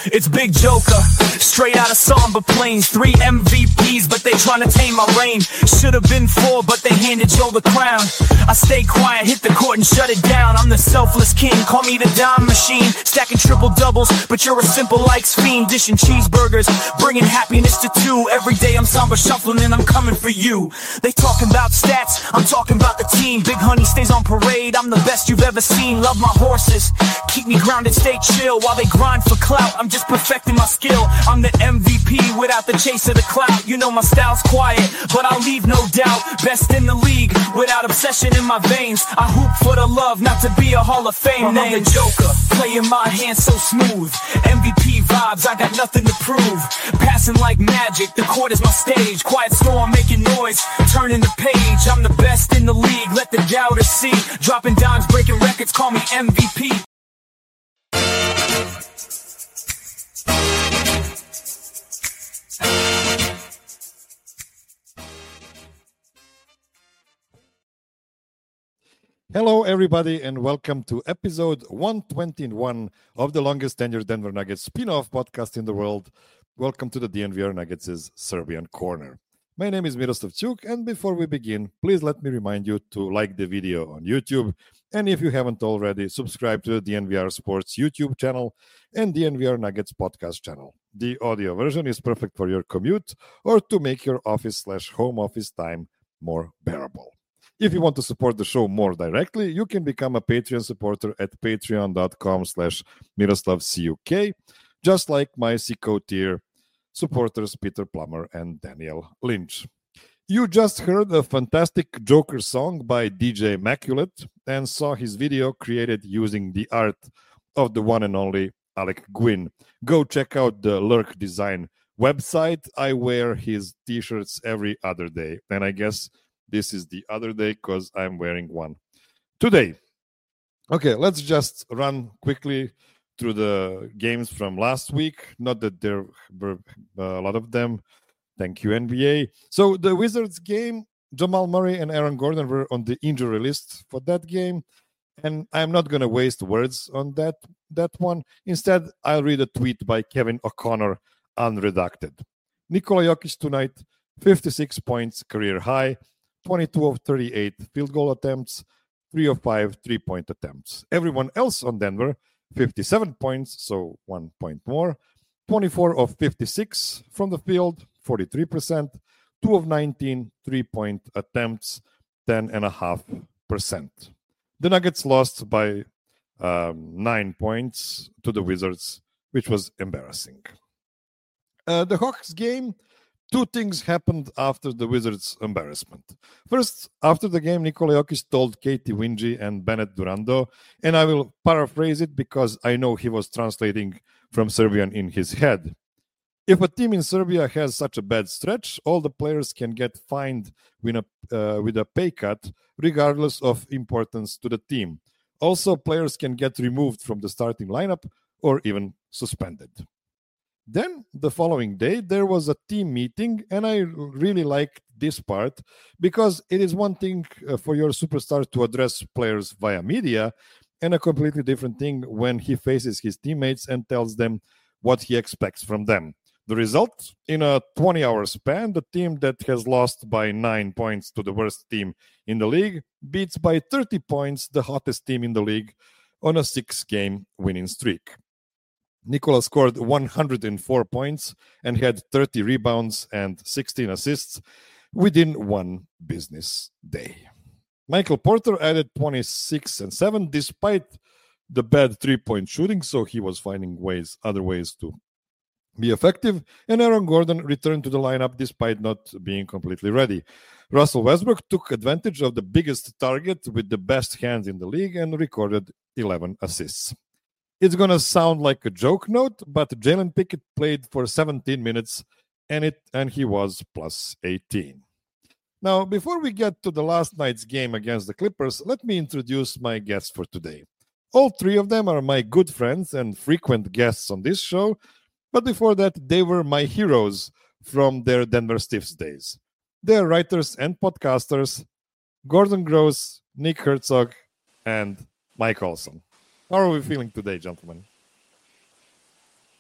It's Big Joker, straight out of Samba Plains. 3 MVPs, but they tryna tame my reign. Should've been 4, but they handed Joe the crown. I stay quiet, hit the court and shut it down. I'm the selfless king, call me the dime machine. Stacking triple doubles, but you're a simple likes fiend. Dishing cheeseburgers, bringing happiness to 2. Every day I'm Samba shuffling and I'm coming for you. They talking about stats, I'm talking about the team. Big Honey stays on parade, I'm the best you've ever seen. Love my horses, keep me grounded, stay chill. While they grind for clout, I'm just perfecting my skill. I'm the MVP without the chase of the clout. You know my style's quiet, but I'll leave no doubt. Best in the league, without obsession in my veins. I hoop for the love, not to be a Hall of Fame name. I'm the Joker, playing my hand so smooth. MVP vibes, I got nothing to prove. Passing like magic, the court is my stage. Quiet storm making noise, turning the page. I'm the best in the league, let the doubters see. Dropping dimes, breaking records, call me MVP. Hello, everybody, and welcome to episode 121 of the longest tenured Denver Nuggets spin-off podcast in the world. Welcome to the DNVR Nuggets' Serbian Corner. My name is Miroslav Ćuk, and before we begin, please let me remind you to like the video on YouTube, and if you haven't already, subscribe to the DNVR Sports YouTube channel and DNVR Nuggets podcast channel. The audio version is perfect for your commute or to make your office/home office time more bearable. If you want to support the show more directly, you can become a Patreon supporter at patreon.com/MiroslavCuk, just like my Sicko tier supporters Peter Plummer and Daniel Lynch. You just heard a fantastic Joker song by DJ Immaculate and saw his video created using the art of the one and only Alec Gwynn. Go check out the Lurk Design website. I wear his t-shirts every other day, and I guess this is the other day because I'm wearing one today. Okay, let's just run quickly through the games from last week. Not that there were a lot of them. Thank you, NBA. So the Wizards game, Jamal Murray and Aaron Gordon were on the injury list for that game. And I'm not going to waste words on that one. Instead, I'll read a tweet by Kevin O'Connor, unredacted. Nikola Jokic tonight, 56 points, career high. 22 of 38 field goal attempts, 3 of 5 3-point attempts. Everyone else on Denver, 57 points, so 1 point more. 24 of 56 from the field, 43%. 2 of 19 3-point attempts, 10.5%. The Nuggets lost by 9 points to the Wizards, which was embarrassing. The Hawks game, two things happened after the Wizards' embarrassment. First, after the game, Nikola Jokic told Katie Wingy and Bennett Durando, and I will paraphrase it because I know he was translating from Serbian in his head. If a team in Serbia has such a bad stretch, all the players can get fined with a pay cut, regardless of importance to the team. Also, players can get removed from the starting lineup or even suspended. Then, the following day, there was a team meeting, and I really liked this part because it is one thing for your superstar to address players via media and a completely different thing when he faces his teammates and tells them what he expects from them. The result, in a 20-hour span, the team that has lost by 9 points to the worst team in the league beats by 30 points the hottest team in the league on a 6-game winning streak. Nikola scored 104 points and had 30 rebounds and 16 assists within one business day. Michael Porter added 26 and 7 despite the bad three-point shooting, so he was finding other ways to be effective, and Aaron Gordon returned to the lineup despite not being completely ready. Russell Westbrook took advantage of the biggest target with the best hands in the league and recorded 11 assists. It's going to sound like a joke note, but Jalen Pickett played for 17 minutes, and he was plus 18. Now, before we get to the last night's game against the Clippers, let me introduce my guests for today. All three of them are my good friends and frequent guests on this show, but before that, they were my heroes from their Denver Stiffs days. They are writers and podcasters, Gordon Gross, Nick Herzog, and Mike Olson. How are we feeling today, gentlemen?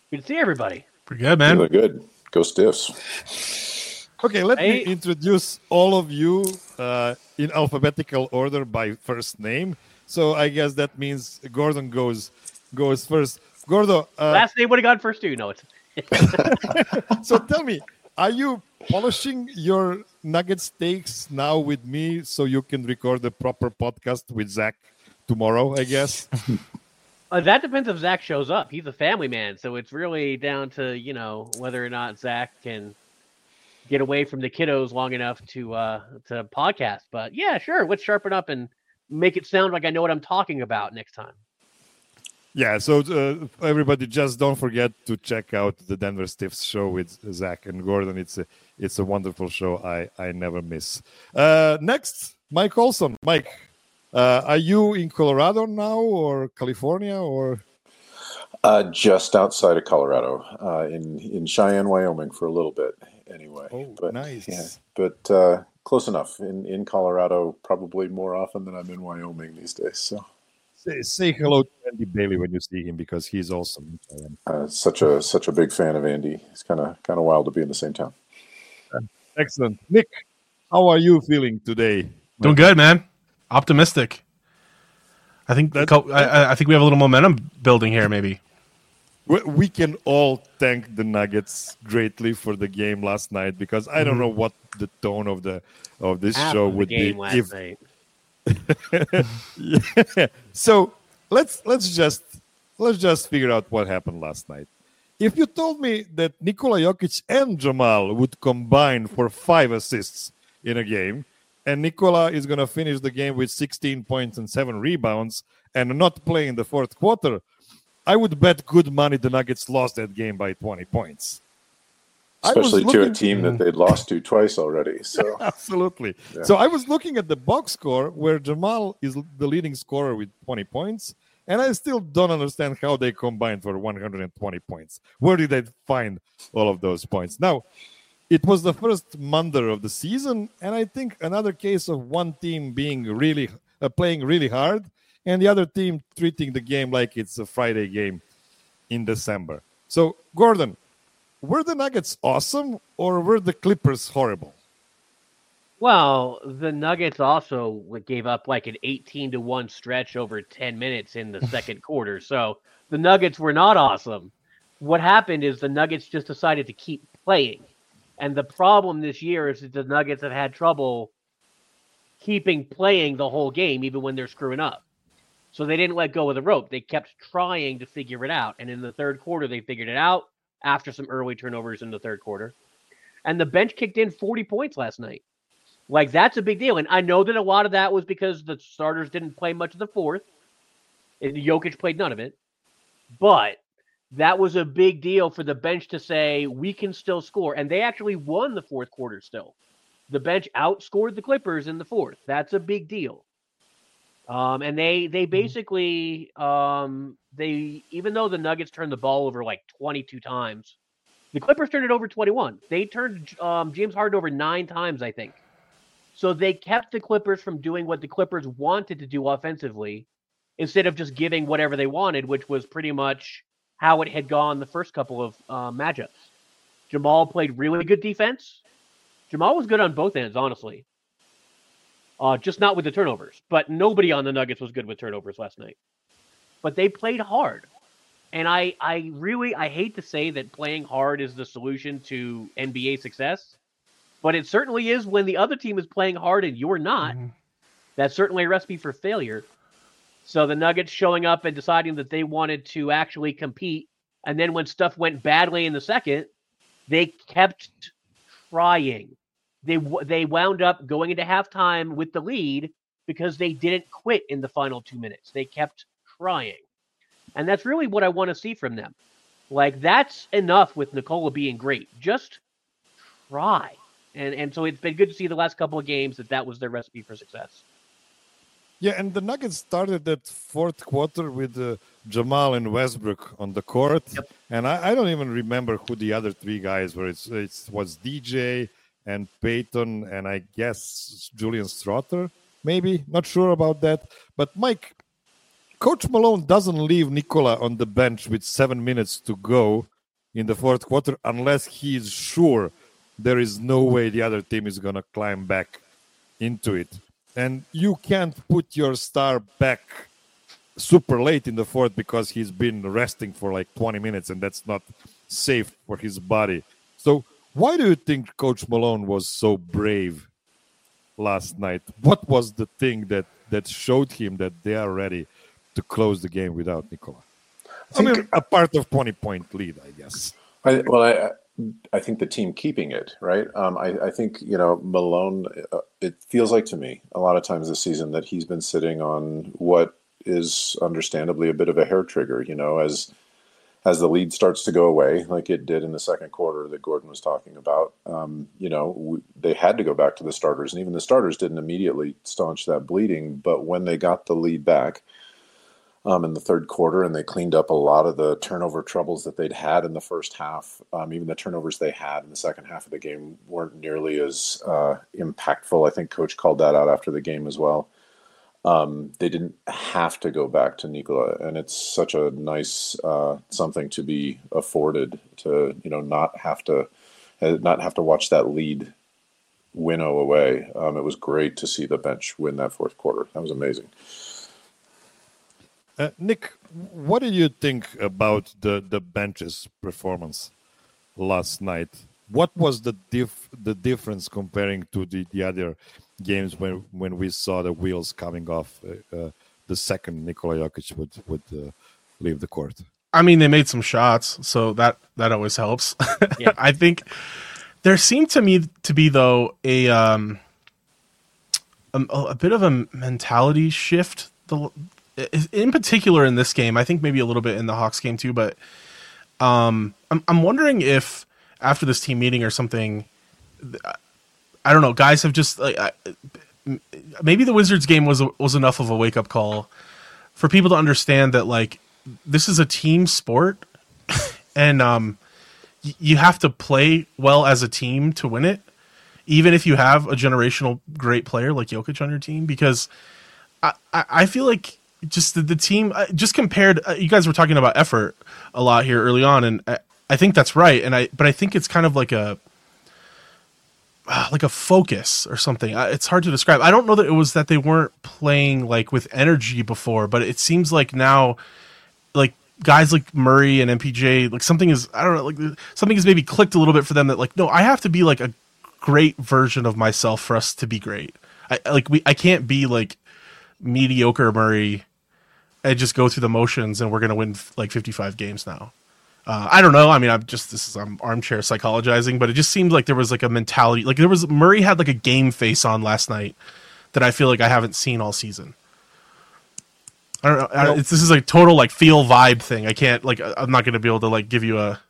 Good to see everybody. Pretty good, You man. look good. Go Stiffs. Okay, let me Hey. introduce all of you in alphabetical order by first name. So I guess that means Gordon goes first. Gordo, Last name would have gone first too. No, it's so tell me, are you polishing your nugget steaks now with me so you can record the proper podcast with Zach tomorrow, I guess? that depends if Zach shows up. He's a family man, so it's really down to whether or not Zach can get away from the kiddos long enough to podcast. But yeah, sure, let's sharpen up and make it sound like I know what I'm talking about next time. Yeah, so everybody, just don't forget to check out the Denver Stiffs show with Zach and Gordon. It's a wonderful show. I never miss. Next, Mike Olson. Mike, are you in Colorado now or California or? Just outside of Colorado, in Cheyenne, Wyoming, for a little bit, anyway. Oh, but, nice. Yeah, but close enough. In Colorado, probably more often than I'm in Wyoming these days. So, Say hello to Andy Bailey when you see him because he's awesome. such a big fan of Andy. It's kind of wild to be in the same town. Excellent, Nick. How are you feeling today? Doing good, man. Optimistic. I think I think we have a little momentum building here, maybe. We can all thank the Nuggets greatly for the game last night because I don't know what the tone of this Half show of the would game be last night. Yeah. So let's just figure out what happened last night. If you told me that Nikola Jokic and Jamal would combine for 5 assists in a game, and Nikola is going to finish the game with 16 points and 7 rebounds and not play in the fourth quarter, I would bet good money the Nuggets lost that game by 20 points. Especially to a team that they'd lost to twice already. So Absolutely. Yeah. So I was looking at the box score where Jamal is the leading scorer with 20 points, and I still don't understand how they combined for 120 points. Where did they find all of those points? Now, it was the first Monday of the season, and I think another case of one team being really playing really hard, and the other team treating the game like it's a Friday game in December. So, Gordon, were the Nuggets awesome or were the Clippers horrible? Well, the Nuggets also gave up like an 18-1 stretch over 10 minutes in the second quarter. So the Nuggets were not awesome. What happened is the Nuggets just decided to keep playing. And the problem this year is that the Nuggets have had trouble keeping playing the whole game, even when they're screwing up. So they didn't let go of the rope. They kept trying to figure it out. And in the third quarter, they figured it out after some early turnovers in the third quarter. And the bench kicked in 40 points last night. Like, that's a big deal. And I know that a lot of that was because the starters didn't play much of the fourth. And Jokic played none of it. But that was a big deal for the bench to say, we can still score. And they actually won the fourth quarter still. The bench outscored the Clippers in the fourth. That's a big deal. And they basically, even though the Nuggets turned the ball over like 22 times, the Clippers turned it over 21. They turned James Harden over 9 times, I think. So they kept the Clippers from doing what the Clippers wanted to do offensively instead of just giving whatever they wanted, which was pretty much how it had gone the first couple of matchups. Jamal played really good defense. Jamal was good on both ends, honestly. Just not with the turnovers. But nobody on the Nuggets was good with turnovers last night. But they played hard. And I hate to say that playing hard is the solution to NBA success. But it certainly is when the other team is playing hard and you're not. Mm-hmm. That's certainly a recipe for failure. So the Nuggets showing up and deciding that they wanted to actually compete. And then when stuff went badly in the second, they kept trying. They wound up going into halftime with the lead because they didn't quit in the final 2 minutes. They kept trying. And that's really what I want to see from them. Like, that's enough with Nikola being great. Just try. And so it's been good to see the last couple of games that was their recipe for success. Yeah, and the Nuggets started that fourth quarter with Jamal and Westbrook on the court. Yep. And I don't even remember who the other 3 guys were. It was DJ and Peyton and I guess Julian Strother, maybe. Not sure about that. But, Mike, Coach Malone doesn't leave Nikola on the bench with 7 minutes to go in the fourth quarter unless he's sure there is no way the other team is going to climb back into it. And you can't put your star back super late in the fourth because he's been resting for like 20 minutes, and that's not safe for his body. So why do you think Coach Malone was so brave last night? What was the thing that showed him that they are ready to close the game without Nikola? I mean, a part of 20-point lead, I guess. I think the team keeping it, right? I think, Malone, it feels like to me a lot of times this season that he's been sitting on what is understandably a bit of a hair trigger, as the lead starts to go away, like it did in the second quarter that Gordon was talking about. They had to go back to the starters, and even the starters didn't immediately staunch that bleeding. But when they got the lead back in the third quarter, and they cleaned up a lot of the turnover troubles that they'd had in the first half, even the turnovers they had in the second half of the game weren't nearly as impactful. I think Coach called that out after the game as well. They didn't have to go back to Nikola, and it's such a nice something to be afforded to, not have to watch that lead winnow away. It was great to see the bench win that fourth quarter. That was amazing. Nick, what did you think about the bench's performance last night? What was the difference comparing to the other games when we saw the wheels coming off the second Nikola Jokic would leave the court? I mean, they made some shots, so that always helps. Yeah. I think there seemed to me to be, though, a bit of a mentality shift. In particular in this game, I think maybe a little bit in the Hawks game too, but I'm wondering if after this team meeting or something, I don't know, guys have just maybe the Wizards game was enough of a wake up call for people to understand that this is a team sport, and you have to play well as a team to win it, even if you have a generational great player like Jokic on your team, because I feel like just the team, just compared, you guys were talking about effort a lot here early on, and I think that's right, but I think it's kind of like a focus or something. It's hard to describe. I don't know that it was that they weren't playing with energy before, but it seems like now, guys like Murray and MPJ, something is, I don't know, something has maybe clicked a little bit for them that no, I have to be a great version of myself for us to be great. I can't be mediocre Murray and just go through the motions and we're going to win 55 games now. I don't know. I mean, I'm armchair psychologizing, but it just seemed like there was a mentality. Murray had a game face on last night that I feel like I haven't seen all season. I don't know. This is a total feel vibe thing. I can't I'm not going to be able to give you I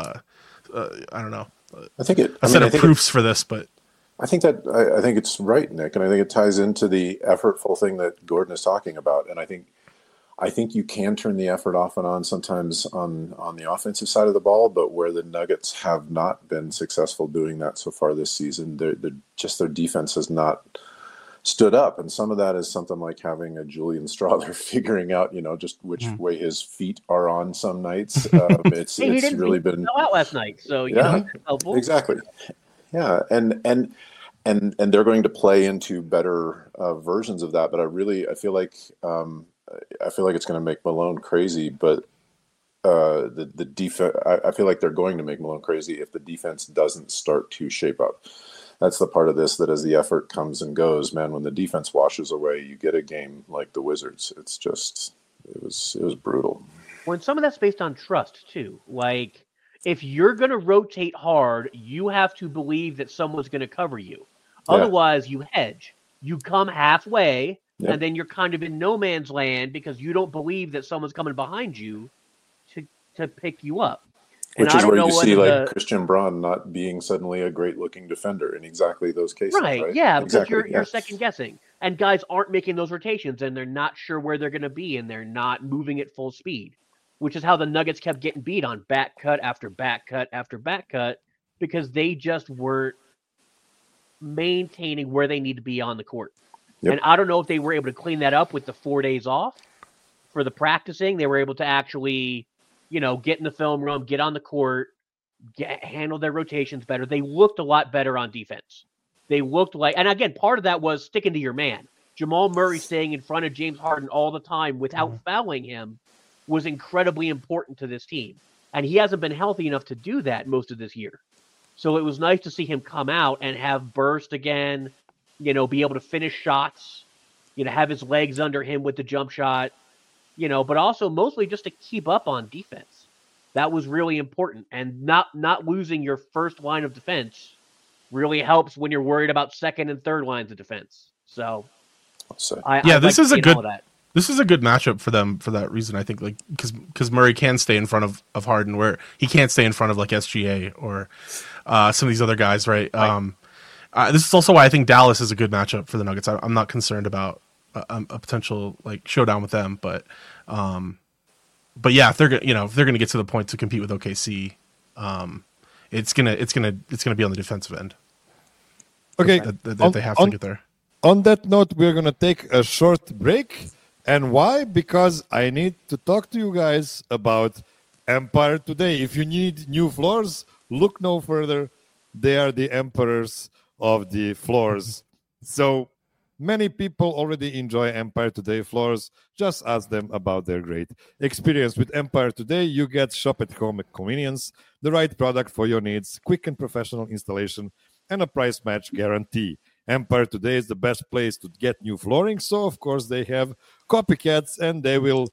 don't know. I think a set of proofs for this, but I think it's right, Nick, and I think it ties into the effortful thing that Gordon is talking about. And I think you can turn the effort off and on sometimes on the offensive side of the ball, but where the Nuggets have not been successful doing that so far this season, their defense has not stood up. And some of that is something like having a Julian Strawther figuring out, just which way his feet are on some nights. It's really been out last night, so yeah, exactly. Yeah, and they're going to play into better versions of that. But I feel like it's going to make Malone crazy. But the defense, I feel like they're going to make Malone crazy if the defense doesn't start to shape up. That's the part of this that as the effort comes and goes, man, when the defense washes away, you get a game like the Wizards. It's just it was brutal. Well, and some of that's based on trust too. If you're going to rotate hard, you have to believe that someone's going to cover you. Yeah. Otherwise, you hedge. You come halfway, and then you're kind of in no man's land because you don't believe that someone's coming behind you to pick you up. Which is where you see Christian Braun not being suddenly a great-looking defender in exactly those cases, right? Yeah, because you're second-guessing. And guys aren't making those rotations, and they're not sure where they're going to be, and they're not moving at full speed. Which is how the Nuggets kept getting beat on back cut after back cut after back cut because they just weren't maintaining where they need to be on the court. Yep. And I don't know if they were able to clean that up with the 4 days off for the practicing. They were able to actually get in the film room, get on the court, handle their rotations better. They looked a lot better on defense. They looked like, and again, part of that was sticking to your man. Jamal Murray staying in front of James Harden all the time without fouling him was incredibly important to this team. And he hasn't been healthy enough to do that most of this year. So it was nice to see him come out and have burst again, be able to finish shots, have his legs under him with the jump shot, but also mostly just to keep up on defense. That was really important. And not losing your first line of defense really helps when you're worried about second and third lines of defense. So this is a good matchup for them for that reason. I think because Murray can stay in front of Harden where he can't stay in front of like SGA or some of these other guys, right? This is also why I think Dallas is a good matchup for the Nuggets. I'm not concerned about a potential like showdown with them, but yeah, if they're gonna get to the point to compete with OKC, it's gonna be on the defensive end. Okay, that they have to get there. On that note, we're gonna take a short break. And why? Because I need to talk to you guys about Empire Today. If you need new floors, look no further. They are the emperors of the floors. So many people already enjoy Empire Today floors. Just ask them about their great experience. With Empire Today, you get shop at home convenience, the right product for your needs, quick and professional installation, and a price match guarantee. Empire Today is the best place to get new flooring, so of course they have copycats, and they will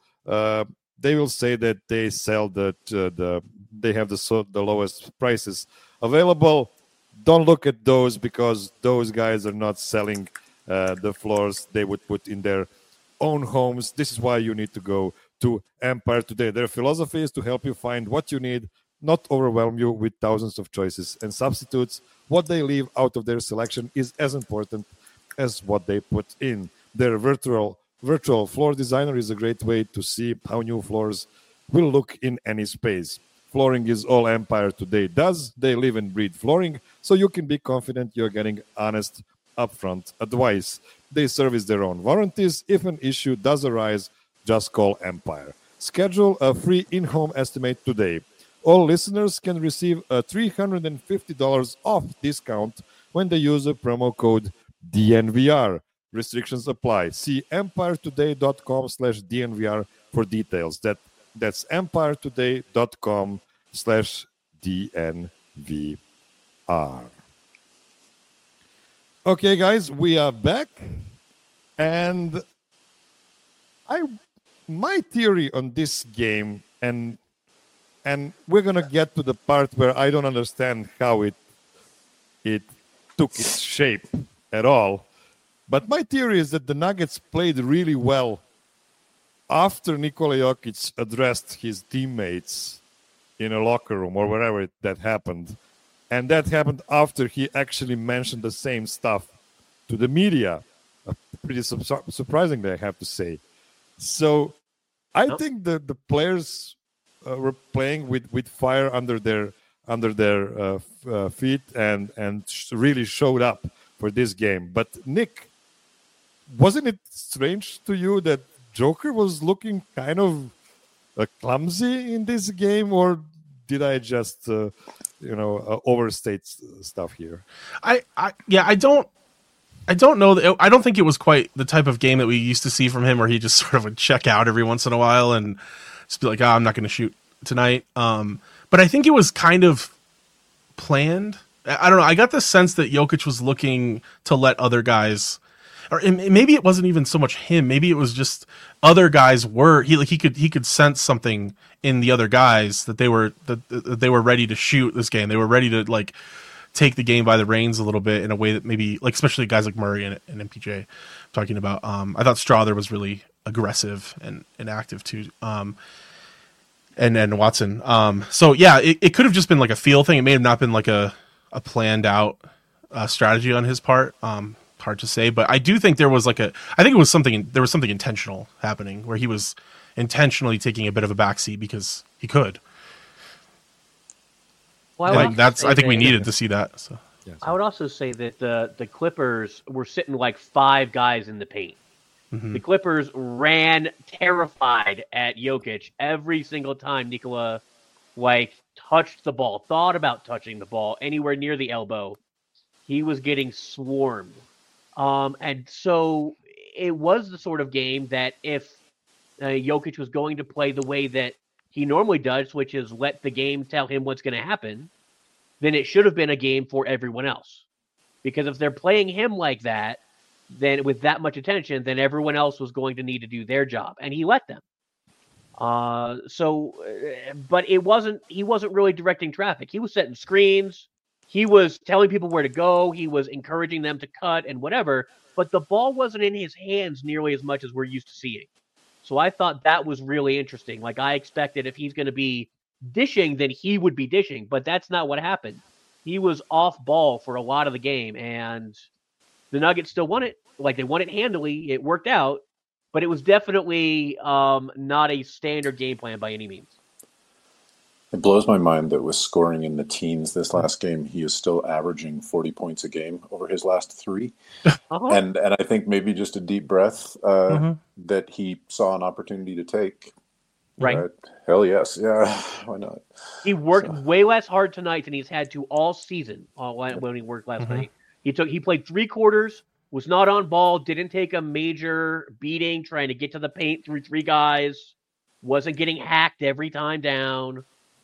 say that they sell they have the lowest prices available. Don't look at those, because those guys are not selling the floors they would put in their own homes. This is why you need to go to Empire Today. Their philosophy is to help you find what you need, not overwhelm you with thousands of choices and substitutes. What they leave out of their selection is as important as what they put in. Their virtual floor designer is a great way to see how new floors will look in any space. Flooring is all Empire Today does. They live and breathe flooring, so you can be confident you're getting honest, upfront advice. They service their own warranties. If an issue does arise, just call Empire. Schedule a free in-home estimate today. All listeners can receive a $350 off discount when they use the promo code DNVR. Restrictions apply. See empiretoday.com/DNVR for details. That's empiretoday.com/DNVR. Okay, guys, we are back. And my theory on this game, and we're going to get to the part where I don't understand how it took its shape at all. But my theory is that the Nuggets played really well after Nikola Jokic addressed his teammates in a locker room or wherever that happened. And that happened after he actually mentioned the same stuff to the media. Pretty surprisingly, I have to say. So I think the players were playing with fire under their feet and really showed up for this game. But Nick, wasn't it strange to you that Joker was looking kind of clumsy in this game, or did I just overstate stuff here? I don't know. I don't think it was quite the type of game that we used to see from him, where he just sort of would check out every once in a while and just be like, I'm not going to shoot tonight. But I think it was kind of planned. I don't know. I got the sense that Jokic was looking to let other guys, or maybe it wasn't even so much him. Maybe it was just other guys he could sense something in the other guys that they were ready to shoot this game. They were ready to like take the game by the reins a little bit in a way that maybe, like, especially guys like Murray and MPJ I'm talking about. I thought Strawther was really aggressive and active too. And Watson. So yeah, it could have just been like a feel thing. It may have not been like a planned out strategy on his part. Hard to say, but I do think there was there was something intentional happening where he was intentionally taking a bit of a backseat because he could. Well, I think we needed to see that. So. I would also say that the Clippers were sitting like 5 guys in the paint. The Clippers ran terrified at Jokic every single time Nikola touched the ball, thought about touching the ball anywhere near the elbow. He was getting swarmed. And so it was the sort of game that if Jokic was going to play the way that he normally does, which is let the game tell him what's going to happen, then it should have been a game for everyone else. Because if they're playing him like that, then with that much attention, then everyone else was going to need to do their job, and he let them. But he wasn't really directing traffic. He was setting screens. He was telling people where to go. He was encouraging them to cut and whatever, but the ball wasn't in his hands nearly as much as we're used to seeing. So I thought that was really interesting. Like, I expected if he's going to be dishing, then he would be dishing, but that's not what happened. He was off ball for a lot of the game, and the Nuggets still won it. Like, they won it handily. It worked out, but it was definitely not a standard game plan by any means. It blows my mind that with scoring in the teens this last game, he is still averaging 40 points a game over his last 3. And I think maybe just a deep breath that he saw an opportunity to take. Right. Hell yes. Yeah. Why not? He worked way less hard tonight than he's had to all season when he worked last night. He played 3 quarters, was not on ball, didn't take a major beating trying to get to the paint through 3 guys, wasn't getting hacked every time down.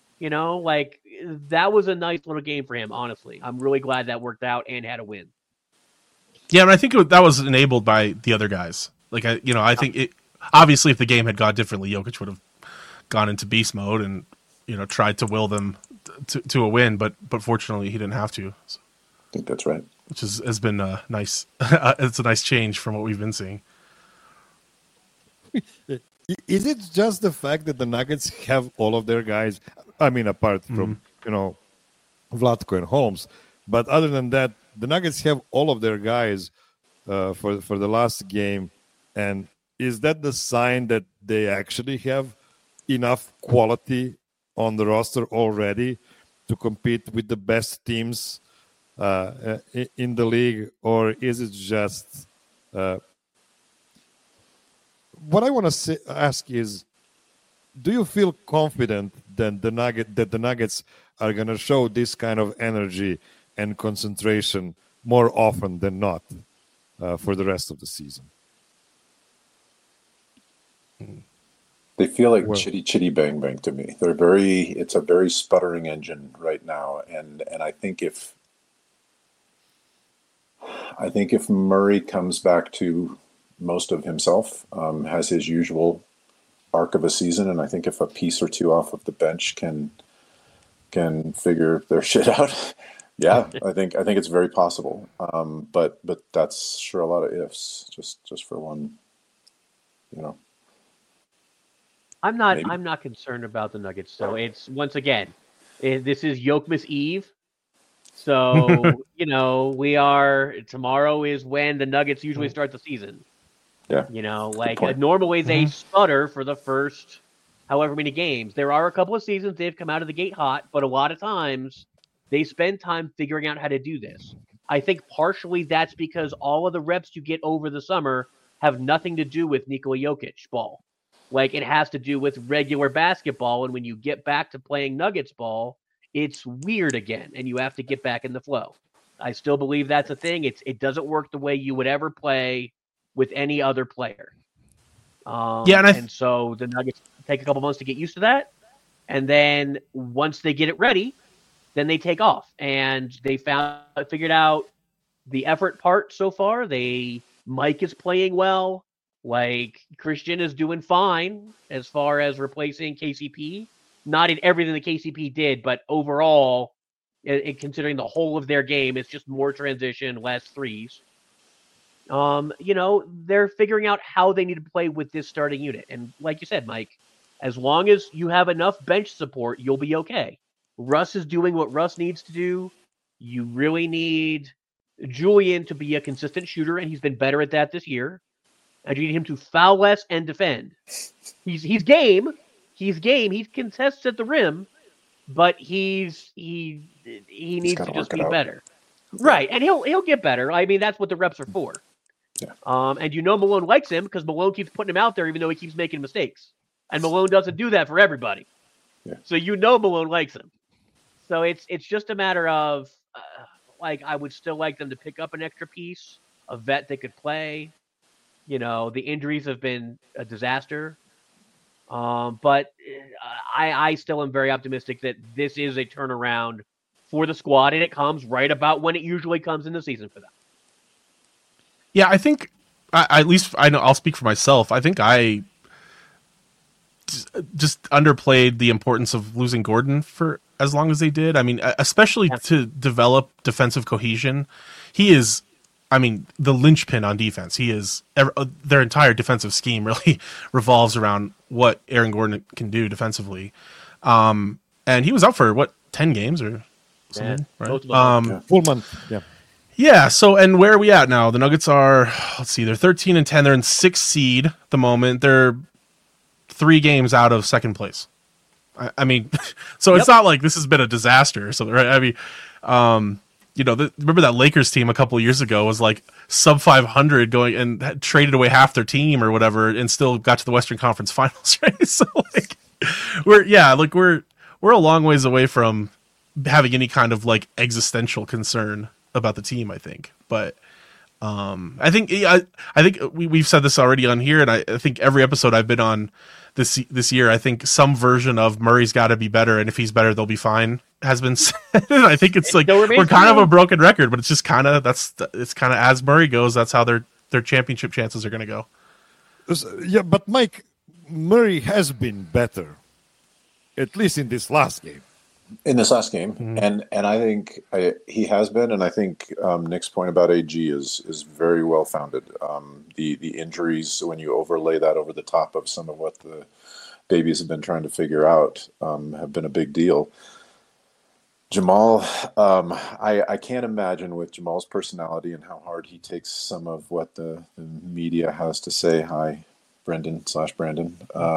That was a nice little game for him, honestly. I'm really glad that worked out and had a win. Yeah, and I think that was enabled by the other guys. I think it obviously if the game had gone differently, Jokic would have gone into beast mode and tried to will them to a win, but fortunately he didn't have to. So. I think that's right. Which has been nice. It's a nice change from what we've been seeing. Is it just the fact that the Nuggets have all of their guys? I mean, apart from Vlatko and Holmes, but other than that, the Nuggets have all of their guys for the last game, and is that the sign that they actually have enough quality on the roster already to compete with the best teams in the league, or is it just what I want to ask is, do you feel confident that the Nuggets are going to show this kind of energy and concentration more often than not for the rest of the season? They feel like chitty chitty bang bang to me. It's a very sputtering engine right now, and I think if Murray comes back to most of himself, has his usual arc of a season, and I think if a piece or two off of the bench can figure their shit out, yeah, I think it's very possible. But that's sure a lot of ifs. Just for one, I'm not concerned about the Nuggets. So it's once again, this is Yokmas Eve. So tomorrow is when the Nuggets usually start the season. Yeah. Normally they sputter for the first however many games. There are a couple of seasons they've come out of the gate hot, but a lot of times they spend time figuring out how to do this. I think partially that's because all of the reps you get over the summer have nothing to do with Nikola Jokic ball. It has to do with regular basketball, and when you get back to playing Nuggets ball, it's weird again, and you have to get back in the flow. I still believe that's a thing. It doesn't work the way you would ever play with any other player. And so the Nuggets take a couple months to get used to that, and then once they get it ready, then they take off. And they figured out the effort part so far. Mike is playing well. Christian is doing fine as far as replacing KCP. Not in everything that KCP did, but overall, considering the whole of their game, it's just more transition, less threes. They're figuring out how they need to play with this starting unit. And like you said, Mike, as long as you have enough bench support, you'll be okay. Russ is doing what Russ needs to do. You really need Julian to be a consistent shooter, and he's been better at that this year. And you need him to foul less and defend. He's game. He's game. He contests at the rim, but he needs to just be better. Right, and he'll get better. I mean, that's what the reps are for. Yeah. And Malone likes him because Malone keeps putting him out there even though he keeps making mistakes. And Malone doesn't do that for everybody. Yeah. So Malone likes him. So it's just a matter of, I would still like them to pick up an extra piece, a vet that could play. The injuries have been a disaster. But I still am very optimistic that this is a turnaround for the squad, and it comes right about when it usually comes in the season for them. Yeah, I think, at least I know, I'll speak for myself. I think I just underplayed the importance of losing Gordon for as long as they did. I mean, especially to develop defensive cohesion. He is, the linchpin on defense. He is, their entire defensive scheme really revolves around what Aaron Gordon can do defensively. And he was out for 10 games or something, right? Full month. Yeah. Yeah. So, and where are we at now? The Nuggets are, let's see, they're 13-10. They're in 6th seed at the moment. They're 3 games out of 2nd place. So it's not like this has been a disaster or something, right? Remember that Lakers team a couple of years ago was like sub 500 going and had traded away half their team or whatever and still got to the Western Conference Finals, right? So we're a long ways away from having any kind of existential concern about the team, I think. But I think we've said this already on here, and I think every episode I've been on this year, I think some version of Murray's got to be better, and if he's better, they'll be fine has been said. I think it's we're kind of a broken record, but it's just kind of it's kind of as Murray goes, that's how their championship chances are going to go. Yeah, but Mike, Murray has been better, at least in this last game. Mm-hmm. and I think he has been, and I think Nick's point about AG is very well founded. The injuries, when you overlay that over the top of some of what the babies have been trying to figure out, have been a big deal. Jamal, I can't imagine with Jamal's personality and how hard he takes some of what the media has to say. Hi, Brendan/Brandon.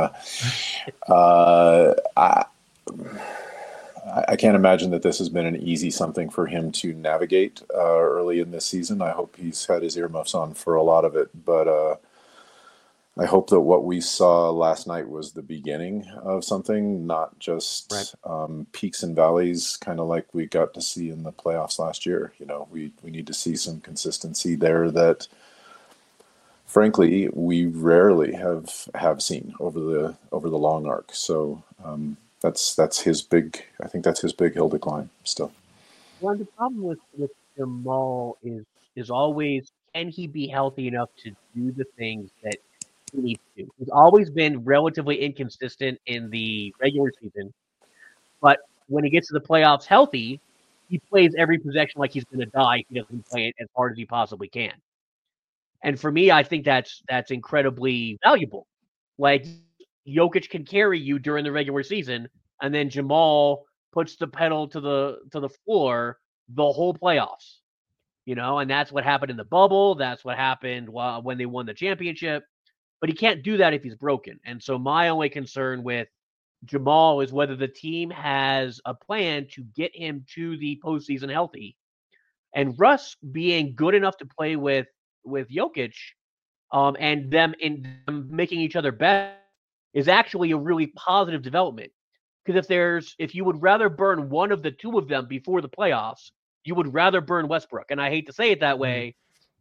I can't imagine that this has been an easy something for him to navigate early in this season. I hope he's had his earmuffs on for a lot of it, but I hope that what we saw last night was the beginning of something, not just peaks and valleys, kind of like we got to see in the playoffs last year. We need to see some consistency there that, frankly, we rarely have seen over the long arc. So. That's his big. I think that's his big hill to climb still. Well, the problem with Jamal is always, can he be healthy enough to do the things that he needs to? He's always been relatively inconsistent in the regular season, but when he gets to the playoffs healthy, he plays every possession like he's going to die if he doesn't play it as hard as he possibly can. And for me, I think that's incredibly valuable. Jokic can carry you during the regular season, and then Jamal puts the pedal to the floor the whole playoffs. And that's what happened in the bubble. That's what happened when they won the championship. But he can't do that if he's broken. And so my only concern with Jamal is whether the team has a plan to get him to the postseason healthy. And Russ being good enough to play with Jokic, and them making each other better, is actually a really positive development. Because if you would rather burn one of the two of them before the playoffs, you would rather burn Westbrook. And I hate to say it that way.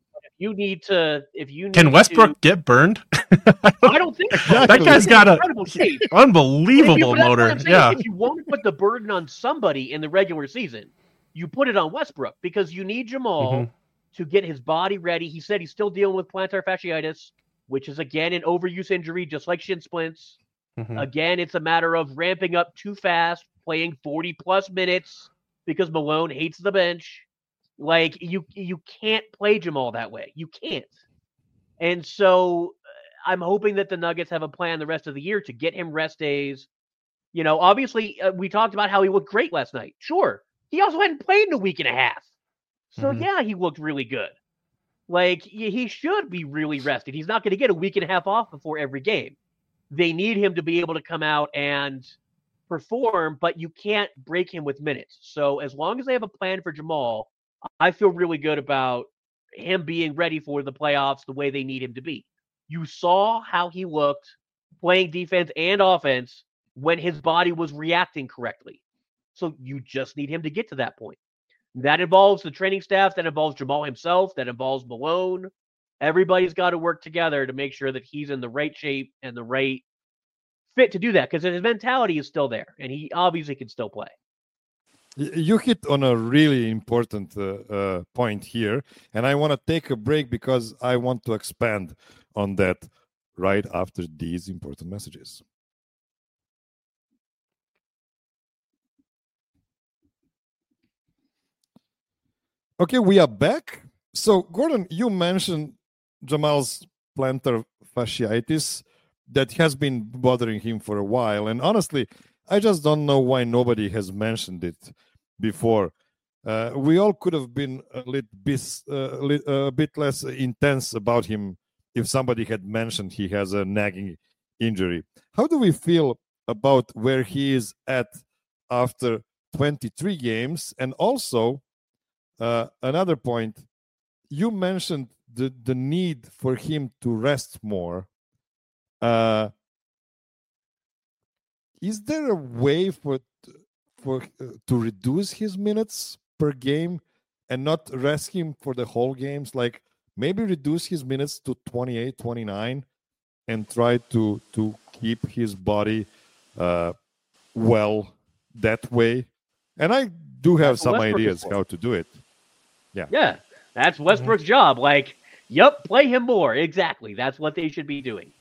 Can Westbrook get burned? I don't think so. That guy's got an unbelievable motor. Yeah. If you want to put the burden on somebody in the regular season, you put it on Westbrook, because you need Jamal to get his body ready. He said he's still dealing with plantar fasciitis, which is, again, an overuse injury, just like shin splints. Again, it's a matter of ramping up too fast, playing 40-plus minutes because Malone hates the bench. You can't play Jamal that way. You can't. And so I'm hoping that the Nuggets have a plan the rest of the year to get him rest days. Obviously, we talked about how he looked great last night. Sure. He also hadn't played in a week and a half. So, yeah, he looked really good. He should be really rested. He's not going to get a week and a half off before every game. They need him to be able to come out and perform, but you can't break him with minutes. So as long as they have a plan for Jamal, I feel really good about him being ready for the playoffs the way they need him to be. You saw how he looked playing defense and offense when his body was reacting correctly. So you just need him to get to that point. That involves the training staff, that involves Jamal himself, that involves Malone. Everybody's got to work together to make sure that he's in the right shape and the right fit to do that, because his mentality is still there, and he obviously can still play. You hit on a really important point here, and I want to take a break because I want to expand on that right after these important messages. Okay, we are back. So, Gordon, you mentioned Jamal's plantar fasciitis that has been bothering him for a while. And honestly, I just don't know why nobody has mentioned it before. We all could have been a bit less intense about him if somebody had mentioned he has a nagging injury. How do we feel about where he is at after 23 games? And also, another point, you mentioned the need for him to rest more. Is there a way to reduce his minutes per game and not rest him for the whole games? Like maybe reduce his minutes to 28, 29 and try to keep his body well that way. And I do have some ideas how to do it. Yeah, that's Westbrook's job. Like, yep, play him more. Exactly. That's what they should be doing.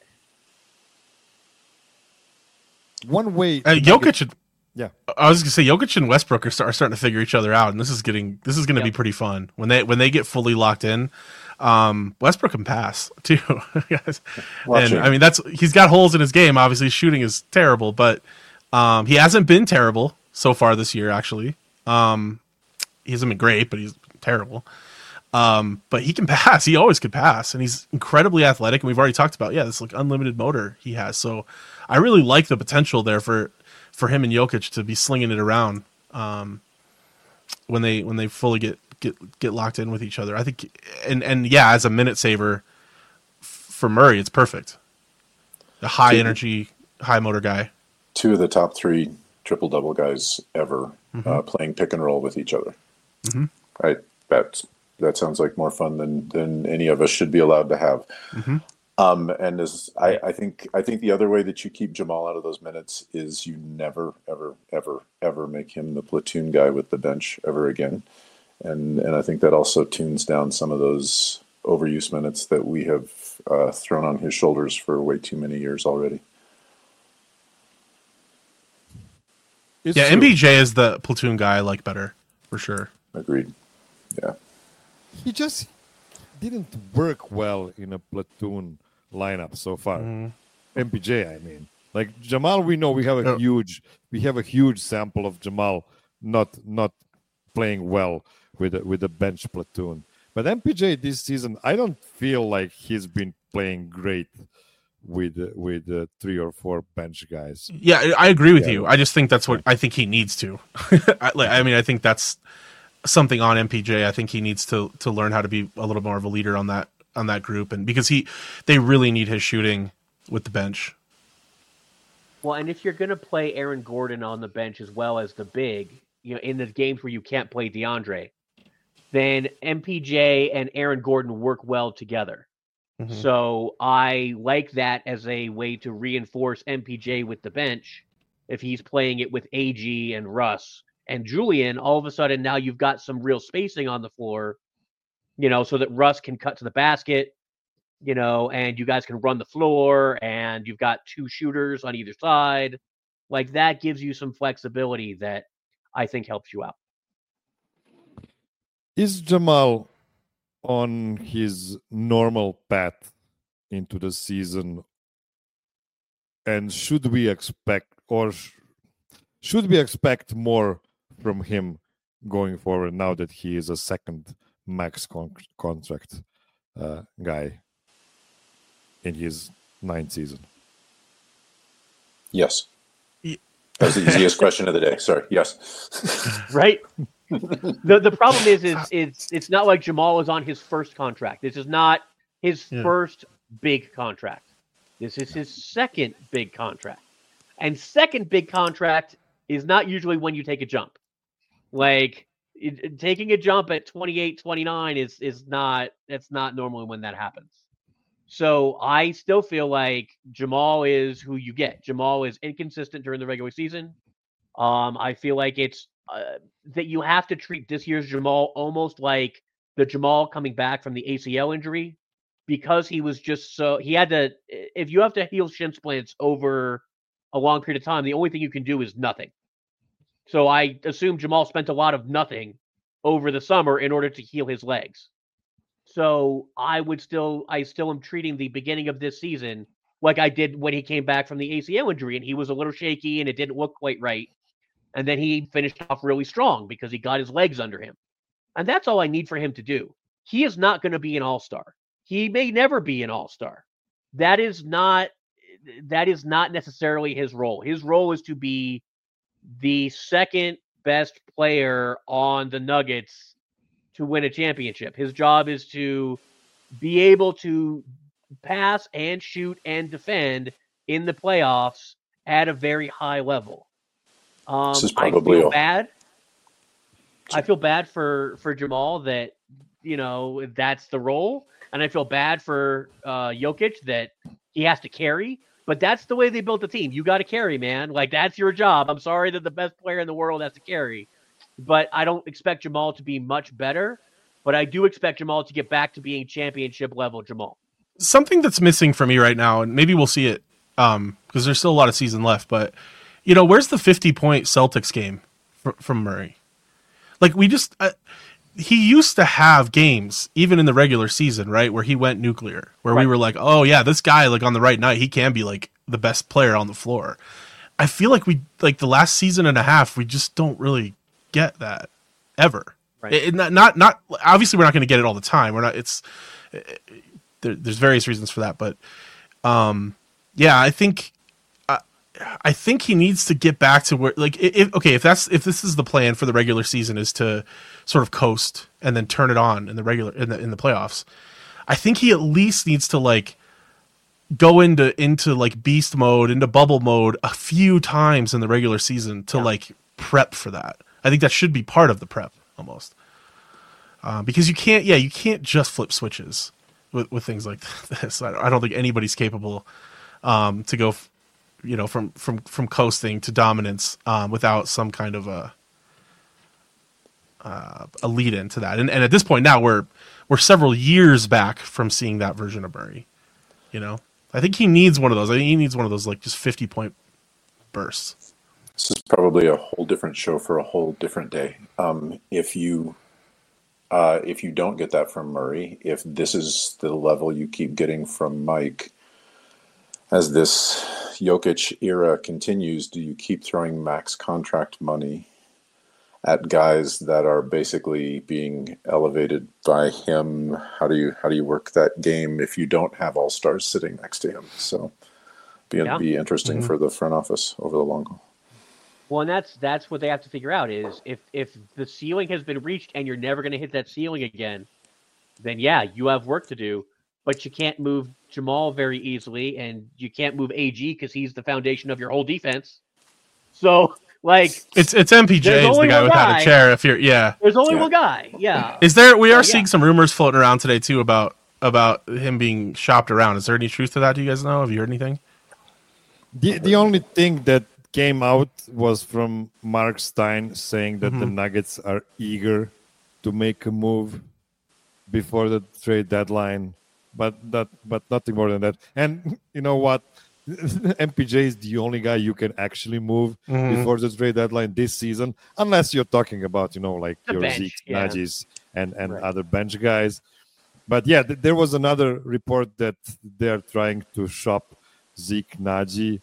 One way, Jokic. Yeah, I was gonna say Jokic and Westbrook are starting to figure each other out, and this is going to be pretty fun when they get fully locked in. Westbrook can pass too, and I mean he's got holes in his game. Obviously, his shooting is terrible, but he hasn't been terrible so far this year. Actually, he hasn't been great, but he's terrible. But he can pass. He always could pass, and he's incredibly athletic. And we've already talked about this like unlimited motor he has. So I really like the potential there for him and Jokic to be slinging it around when they fully get locked in with each other. I think, and as a minute saver for Murray, it's perfect. A high energy, high motor guy. Two of the top 3 triple-double guys ever playing pick and roll with each other. Mm-hmm. Right. That sounds like more fun than any of us should be allowed to have. Mm-hmm. And I think the other way that you keep Jamal out of those minutes is you never, ever, ever, ever make him the platoon guy with the bench ever again. And I think that also tunes down some of those overuse minutes that we have thrown on his shoulders for way too many years already. MPJ is the platoon guy I like better, for sure. Agreed. Yeah. He just didn't work well in a platoon lineup so far. MPJ, I mean. Like Jamal, we know we have a huge sample of Jamal not playing well with a bench platoon. But MPJ this season, I don't feel like he's been playing great with 3 or 4 bench guys. Yeah, I agree with you. I just think that's what I think he needs to. I think that's something on MPJ. I think he needs to learn how to be a little more of a leader on that group, and because they really need his shooting with the bench. Well, and if you're going to play Aaron Gordon on the bench as well as the big, in the games where you can't play DeAndre, then MPJ and Aaron Gordon work well together. Mm-hmm. So I like that as a way to reinforce MPJ with the bench. If he's playing it with AG and Russ and Julian, all of a sudden now you've got some real spacing on the floor, so that Russ can cut to the basket, and you guys can run the floor, and you've got 2 shooters on either side. Like that gives you some flexibility that I think helps you out. Is Jamal on his normal path into the season, and should we expect more from him going forward now that he is a second max contract guy in his 9th season? Yes. That was the easiest question of the day. Sorry. Yes. Right. The problem is it's not like Jamal is on his first contract. This is not his first big contract. This is his second big contract. And second big contract is not usually when you take a jump. Like taking a jump at 28, 29 is not normally when that happens. So I still feel like Jamal is who you get. Jamal is inconsistent during the regular season. I feel like it's that you have to treat this year's Jamal almost like the Jamal coming back from the ACL injury, because he was just he had to. If you have to heal shin splints over a long period of time, the only thing you can do is nothing. So I assume Jamal spent a lot of nothing over the summer in order to heal his legs. So I still am treating the beginning of this season like I did when he came back from the ACL injury, and he was a little shaky and it didn't look quite right. And then he finished off really strong because he got his legs under him. And that's all I need for him to do. He is not going to be an all-star. He may never be an all-star. That is not necessarily his role. His role is to be the second best player on the Nuggets to win a championship. His job is to be able to pass and shoot and defend in the playoffs at a very high level. This is probably I feel bad for Jamal that, that's the role. And I feel bad for Jokic that he has to carry. But that's the way they built the team. You got to carry, man. Like, that's your job. I'm sorry that the best player in the world has to carry. But I don't expect Jamal to be much better. But I do expect Jamal to get back to being championship level Jamal. Something that's missing for me right now, and maybe we'll see it because there's still a lot of season left, but where's the 50-point Celtics game from Murray? Like, we just he used to have games even in the regular season, right, where he went nuclear, where we were like, oh yeah, this guy, like, on the right night, he can be like the best player on the floor. I feel like the last season and a half, we just don't really get that ever. Right. Not obviously we're not going to get it all the time. We're not. There's various reasons for that, but I think he needs to get back to where, like, if this is the plan for the regular season, is to sort of coast and then turn it on in the playoffs. I think he at least needs to, like, go into like beast mode, into bubble mode a few times in the regular season to like prep for that. I think that should be part of the prep almost, because you can't just flip switches with things like this. I don't think anybody's capable to go from coasting to dominance without some kind of a lead into that. And at this point now we're several years back from seeing that version of Murray. I think he needs one of those. I think he needs one of those, like, just 50-point bursts. This is probably a whole different show for a whole different day. If you don't get that from Murray, if this is the level you keep getting from Mike as this Jokic era continues, do you keep throwing max contract money at guys that are basically being elevated by him? How do you work that game if you don't have all-stars sitting next to him? So be interesting for the front office over the long haul. Well, and that's what they have to figure out is if the ceiling has been reached and you're never going to hit that ceiling again, then you have work to do. But you can't move Jamal very easily, and you can't move AG because he's the foundation of your whole defense. So, like, it's MPJ is the guy without a chair. If you're there's only one guy. Yeah. Is there? We are seeing some rumors floating around today too about him being shopped around. Is there any truth to that? Do you guys know? Have you heard anything? The only thing that came out was from Mark Stein saying that the Nuggets are eager to make a move before the trade deadline, but nothing more than that. And you know what? MPJ is the only guy you can actually move before the trade deadline this season, unless you're talking about, like the your bench, Zeke, Najis, and other bench guys. But there was another report that they're trying to shop Zeke, Najee,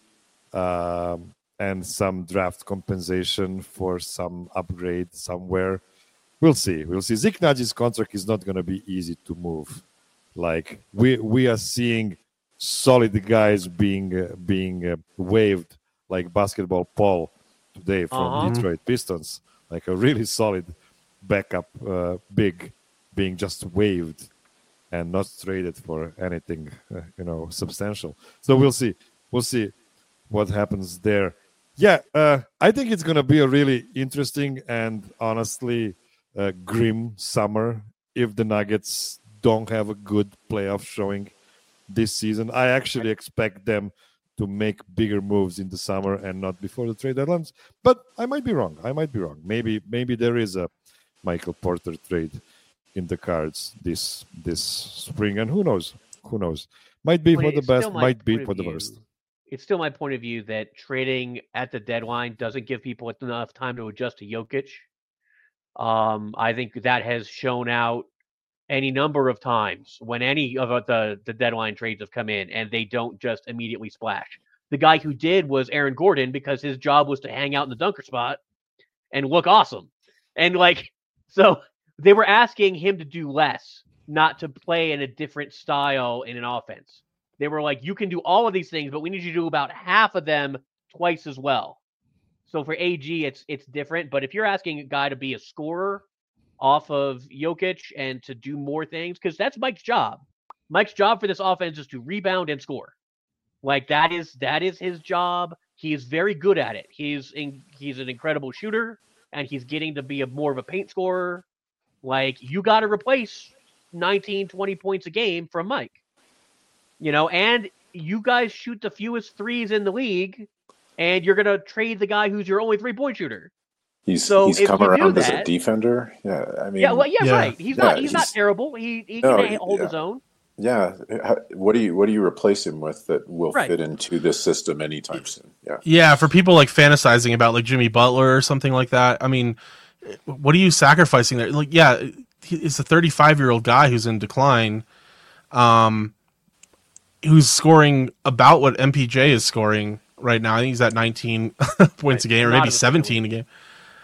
and some draft compensation for some upgrade somewhere. We'll see. Zeke Najee's contract is not going to be easy to move. Like, we are seeing solid guys being waived, like Basketball Paul today from Detroit Pistons, like a really solid backup big being just waived and not traded for anything, substantial. So we'll see. We'll see what happens there. Yeah, I think it's going to be a really interesting and honestly grim summer if the Nuggets don't have a good playoff showing this season. I actually expect them to make bigger moves in the summer and not before the trade deadlines. But I might be wrong. Maybe there is a Michael Porter trade in the cards this spring, and who knows? Might be for the best, might be for the worst. It's still my point of view that trading at the deadline doesn't give people enough time to adjust to Jokic. I think that has shown out any number of times when any of the deadline trades have come in and they don't just immediately splash. The guy who did was Aaron Gordon because his job was to hang out in the dunker spot and look awesome. And so they were asking him to do less, not to play in a different style in an offense. They were like, you can do all of these things, but we need you to do about half of them twice as well. So for AG, it's different. But if you're asking a guy to be a scorer off of Jokic and to do more things, because that's Mike's job. Mike's job for this offense is to rebound and score. That is his job. He is very good at it. He's an incredible shooter, and he's getting to be more of a paint scorer. You got to replace 19, 20 points a game from Mike. And you guys shoot the fewest threes in the league, and you're going to trade the guy who's your only 3-point shooter. He's come around as a defender. Yeah, I mean, right. He's not terrible. He can hold his own. Yeah. What do you replace him with that will fit into this system anytime soon? Yeah. Yeah. For people fantasizing about Jimmy Butler or something like that. I mean, what are you sacrificing there? It's a 35-year-old guy who's in decline. Who's scoring about what MPJ is scoring right now. I think he's at 19 points a game, or maybe 17 a game.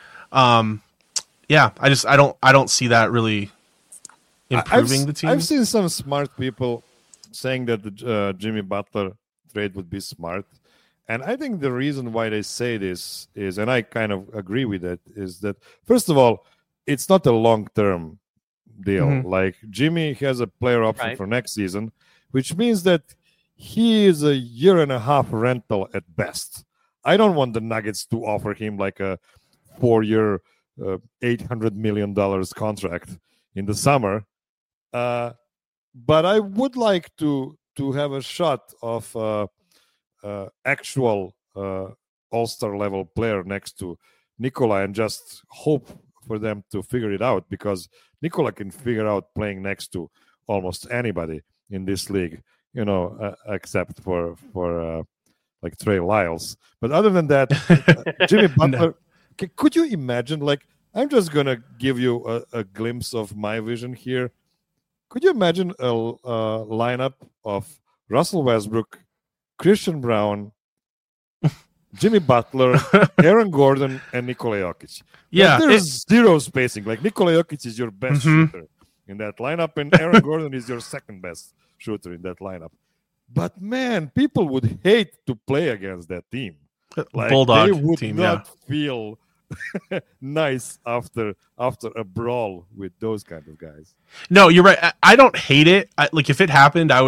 I don't see that really improving the team. I've seen some smart people saying that the Jimmy Butler trade would be smart. And I think the reason why they say this is, and I kind of agree with it, is that, first of all, it's not a long-term deal. Mm-hmm. Jimmy has a player option for next season, which means that he is a year and a half rental at best. I don't want the Nuggets to offer him a 4-year, $800 million contract in the summer. But I would like to have a shot of actual all-star level player next to Nikola and just hope for them to figure it out, because Nikola can figure out playing next to almost anybody in this league, except for Trey Lyles. But other than that, Jimmy Butler, could you imagine, I'm just going to give you a glimpse of my vision here. Could you imagine a lineup of Russell Westbrook, Christian Brown, Jimmy Butler, Aaron Gordon, and Nikola Jokic? Yeah. There's zero spacing. Nikola Jokic is your best shooter in that lineup, and Aaron Gordon is your second best shooter in that lineup. But man, people would hate to play against that team. Bulldog they would team, not feel nice after a brawl with those kind of guys. No, you're right. I don't hate it. If it happened, I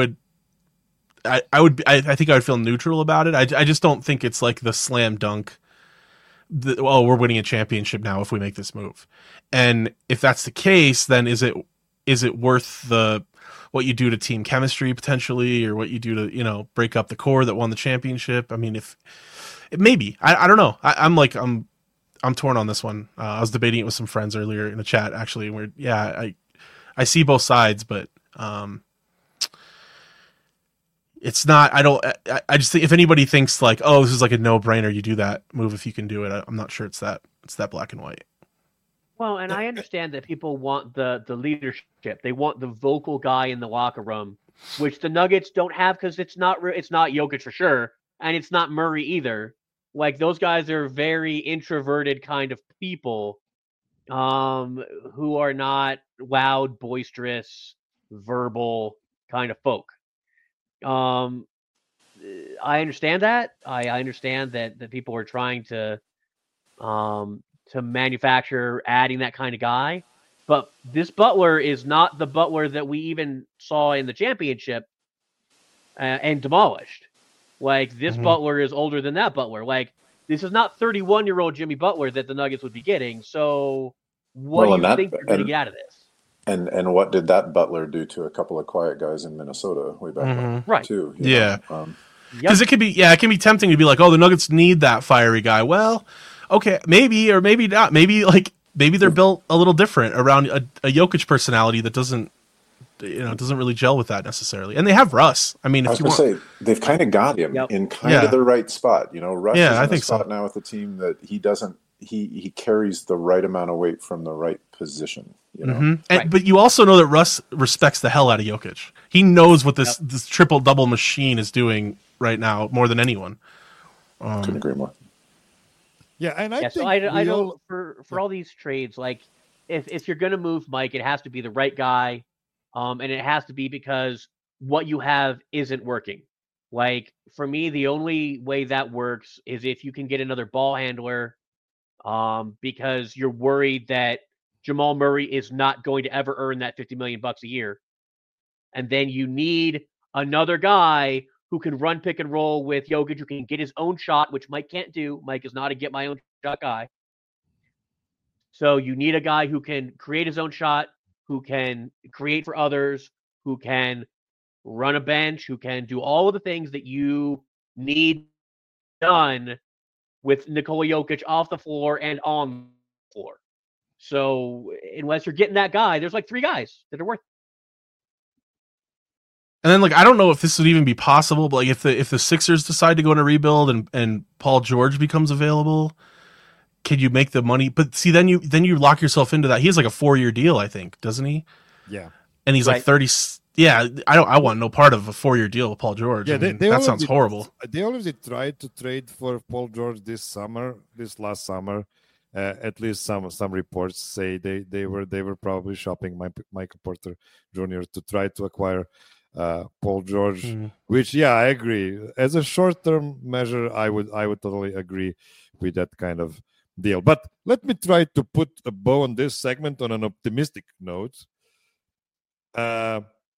think I would feel neutral about it. I just don't think it's the slam dunk. We're winning a championship now if we make this move. And if that's the case, then is it worth what you do to team chemistry potentially, or what you do to break up the core that won the championship? I mean, if maybe I don't know. I'm torn on this one. I was debating it with some friends earlier in the chat actually. Where I see both sides, but it's not. I just think if anybody thinks this is a no-brainer, you do that move if you can do it. I'm not sure it's that black and white. Well, and I understand that people want the leadership. They want the vocal guy in the locker room, which the Nuggets don't have because it's not Jokic for sure, and it's not Murray either. Those guys are very introverted kind of people, who are not loud, boisterous, verbal kind of folk. I understand that. I understand that people are trying to to manufacture adding that kind of guy. But this Butler is not the Butler that we even saw in the championship and demolished. Like, this Butler is older than that Butler. Like, this is not 31-year-old Jimmy Butler that the Nuggets would be getting. So what do you think you're going to get out of this? And what did that Butler do to a couple of quiet guys in Minnesota way back when, Right. too? Yeah. Because it can be tempting to be like, oh, the Nuggets need that fiery guy. Well, okay, maybe or maybe not. Maybe they're built a little different around a Jokic personality that doesn't really gel with that necessarily. And they have Russ. I mean, I was going to say they've kind of got him in kind of the right spot. Russ is in a spot now with the team that he doesn't. He carries the right amount of weight from the right position. But you also know that Russ respects the hell out of Jokic. He knows what this triple double machine is doing right now more than anyone. Couldn't agree more. Yeah, and I think I don't for all these trades, like if you're going to move Mike, it has to be the right guy, and it has to be because what you have isn't working. Like, for me, the only way that works is if you can get another ball handler, because you're worried that Jamal Murray is not going to ever earn that $50 million a year, and then you need another guy who can run pick and roll with Jokic, who can get his own shot, which Mike can't do. Mike is not a get my own shot guy. So you need a guy who can create his own shot, who can create for others, who can run a bench, who can do all of the things that you need done with Nikola Jokic off the floor and on the floor. So unless you're getting that guy, there's like 3 guys that are worth it. And then, like, I don't know if this would even be possible, but like if the Sixers decide to go in a rebuild and Paul George becomes available, can you make the money? But see, then you lock yourself into that. He has like a 4-year deal, I think, doesn't he? Yeah. And he's like 30. Yeah, I want no part of a 4-year deal with Paul George. Yeah, that sounds horrible. They already tried to trade for Paul George this last summer. At least some reports say they were probably shopping Michael Porter Jr. to try to acquire Paul George, which I agree. As a short-term measure, I would totally agree with that kind of deal. But let me try to put a bow on this segment on an optimistic note. I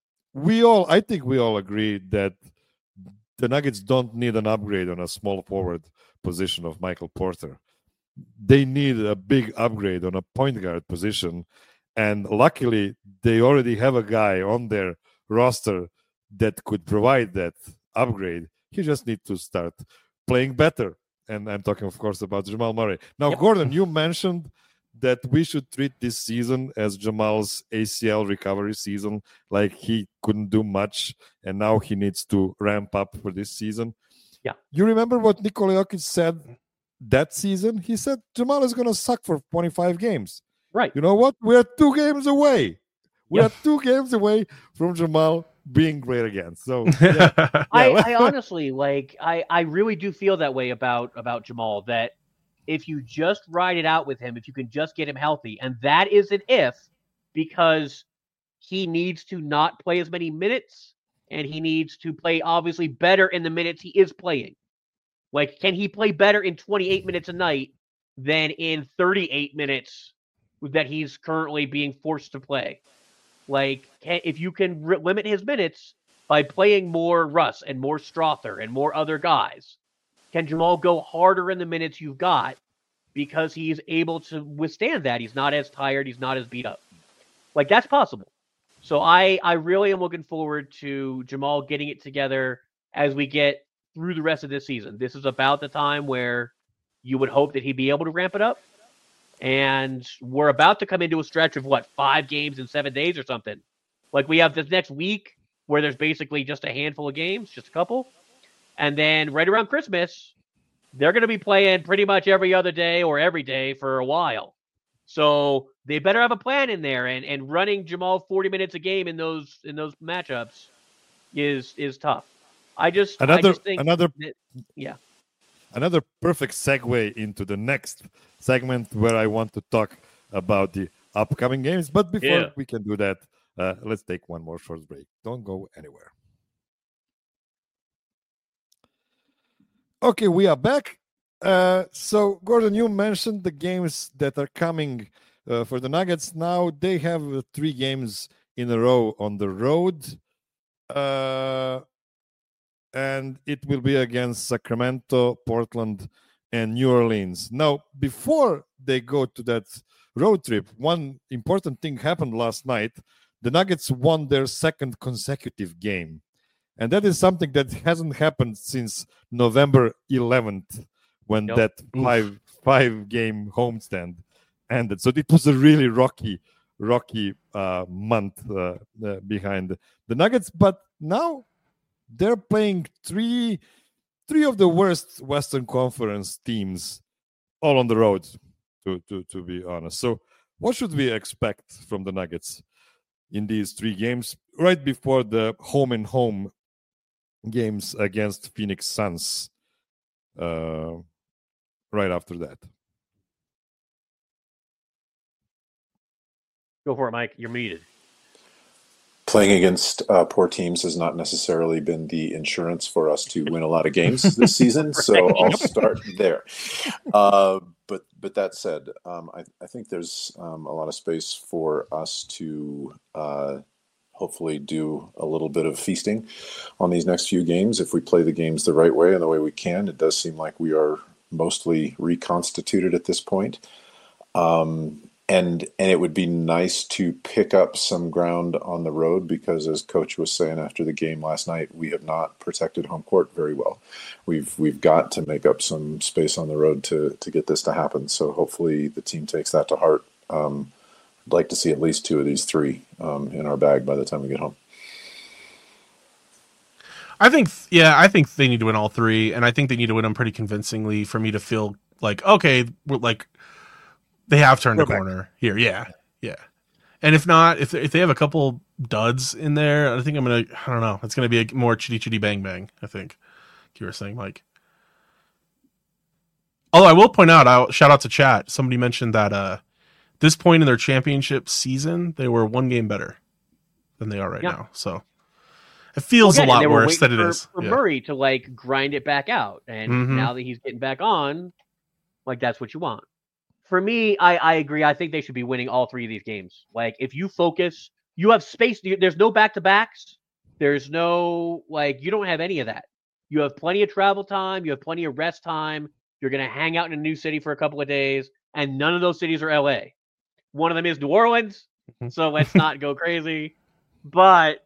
think we all agree that the Nuggets don't need an upgrade on a small forward position of Michael Porter. They need a big upgrade on a point guard position, and luckily they already have a guy on their roster that could provide that upgrade. He just needs to start playing better. And I'm talking, of course, about Jamal Murray. Now, Gordon, you mentioned that we should treat this season as Jamal's ACL recovery season, like he couldn't do much, and now he needs to ramp up for this season. Yeah. You remember what Nikola Jokic said that season? He said Jamal is going to suck for 25 games. Right. You know what? We're 2 games away. We are 2 games away from Jamal being great again. So I honestly, like, I really do feel that way about Jamal, that if you just ride it out with him, if you can just get him healthy, and that is an if, because he needs to not play as many minutes, and he needs to play obviously better in the minutes he is playing. Like, can he play better in 28 minutes a night than in 38 minutes that he's currently being forced to play? Like, if you can limit his minutes by playing more Russ and more Strother and more other guys, can Jamal go harder in the minutes you've got because he's able to withstand that? He's not as tired. He's not as beat up. Like, that's possible. So I really am looking forward to Jamal getting it together as we get through the rest of this season. This is about the time where you would hope that he'd be able to ramp it up. And we're about to come into a stretch of 5 games in 7 days or something. Like, we have this next week where there's basically just a handful of games, just a couple. And then right around Christmas, they're going to be playing pretty much every other day or every day for a while. So they better have a plan in there. And running Jamal 40 minutes a game in those matchups is tough. I just think another perfect segue into the next segment where I want to talk about the upcoming games. But before we can do that, let's take one more short break. Don't go anywhere. Okay, we are back. So, Gordon, you mentioned the games that are coming for the Nuggets. Now they have 3 games in a row on the road. And it will be against Sacramento, Portland, and New Orleans. Now, before they go to that road trip, one important thing happened last night. The Nuggets won their 2nd consecutive game. And that is something that hasn't happened since November 11th, when that five-game homestand ended. So it was a really rocky month behind the Nuggets. But now they're playing three of the worst Western Conference teams all on the road, to be honest. So what should we expect from the Nuggets in these 3 games right before the home games against Phoenix Suns right after that? Go for it, Mike. You're muted. Playing against poor teams has not necessarily been the insurance for us to win a lot of games this season, so I'll start there. But that said, I think there's a lot of space for us to hopefully do a little bit of feasting on these next few games. If we play the games the right way and the way we can, it does seem like we are mostly reconstituted at this point. And it would be nice to pick up some ground on the road because, as Coach was saying after the game last night, we have not protected home court very well. We've got to make up some space on the road to get this to happen. So hopefully the team takes that to heart. I'd like to see at least 2 of these 3 in our bag by the time we get home. I think they need to win all 3, and I think they need to win them pretty convincingly for me to feel like, okay, we're like, they have turned a corner here. Yeah. And if not, if they have a couple duds in there, I think I don't know. It's going to be a more chitty bang bang, I think. You were saying, Mike. Although I will point out, I'll shout out to chat. Somebody mentioned that this point in their championship season, they were 1 game better than they are right now. So it feels a lot worse than it is. For Murray to like grind it back out. And now that he's getting back on, like that's what you want. For me, I agree. I think they should be winning all 3 of these games. Like, if you focus, you have space. There's no back-to-backs. There's no, you don't have any of that. You have plenty of travel time. You have plenty of rest time. You're going to hang out in a new city for a couple of days, and none of those cities are LA. One of them is New Orleans, so let's not go crazy. But,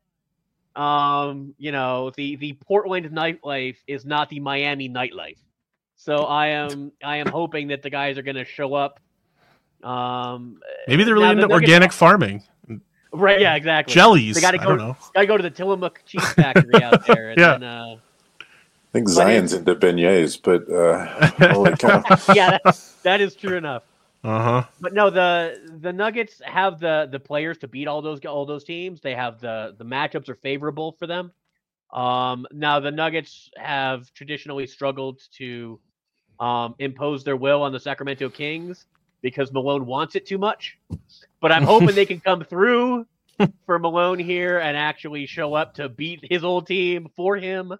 the Portland nightlife is not the Miami nightlife. So I am hoping that the guys are going to show up. Maybe they're really into organic farming. Right, yeah, exactly. Jellies. They got to go to the Tillamook cheese factory out there. And then, I think Zion's into beignets, but holy cow. Yeah, that is true enough. Uh-huh. But no, the Nuggets have the players to beat all those teams. They have the matchups are favorable for them. Now the Nuggets have traditionally struggled to impose their will on the Sacramento Kings because Malone wants it too much. But I'm hoping they can come through for Malone here and actually show up to beat his old team for him.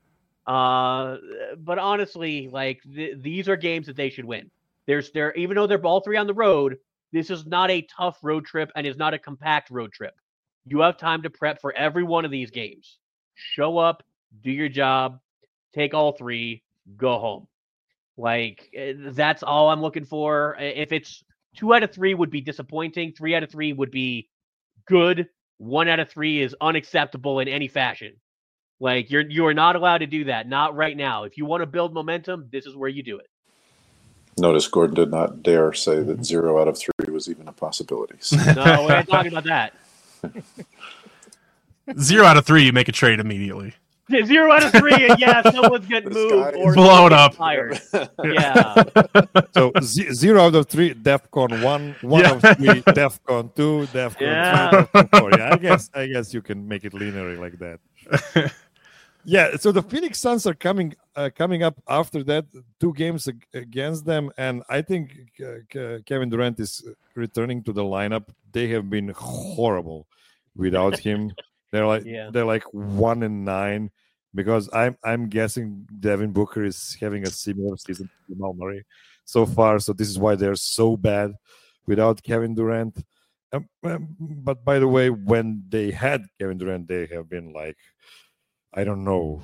But honestly, these are games that they should win. Even though they're all 3 on the road, this is not a tough road trip and is not a compact road trip. You have time to prep for every one of these games. Show up, do your job, take all 3, go home. That's all I'm looking for. If it's 2 out of 3 would be disappointing. 3 out of 3 would be good. 1 out of 3 is unacceptable in any fashion. You are not allowed to do that. Not right now. If you want to build momentum, this is where you do it. Notice Gordon did not dare say that 0 out of 3 was even a possibility. So. No, we're not talking about that. 0 out of 3, you make a trade immediately. 0 out of 3, and someone's getting moved or blown up. Fired. Yeah. So 0 out of 3, DEFCON 1 out of 3, DEFCON 2, DEFCON 3, DEFCON 4. Yeah, I guess you can make it linear like that. Yeah, so the Phoenix Suns are coming up after that, 2 games against them, and I think Kevin Durant is returning to the lineup. They have been horrible without him. They're like 1-9. because I'm guessing Devin Booker is having a similar season to Jamal Murray so far. So this is why they're so bad without Kevin Durant. But by the way, when they had Kevin Durant, they have been like, I don't know,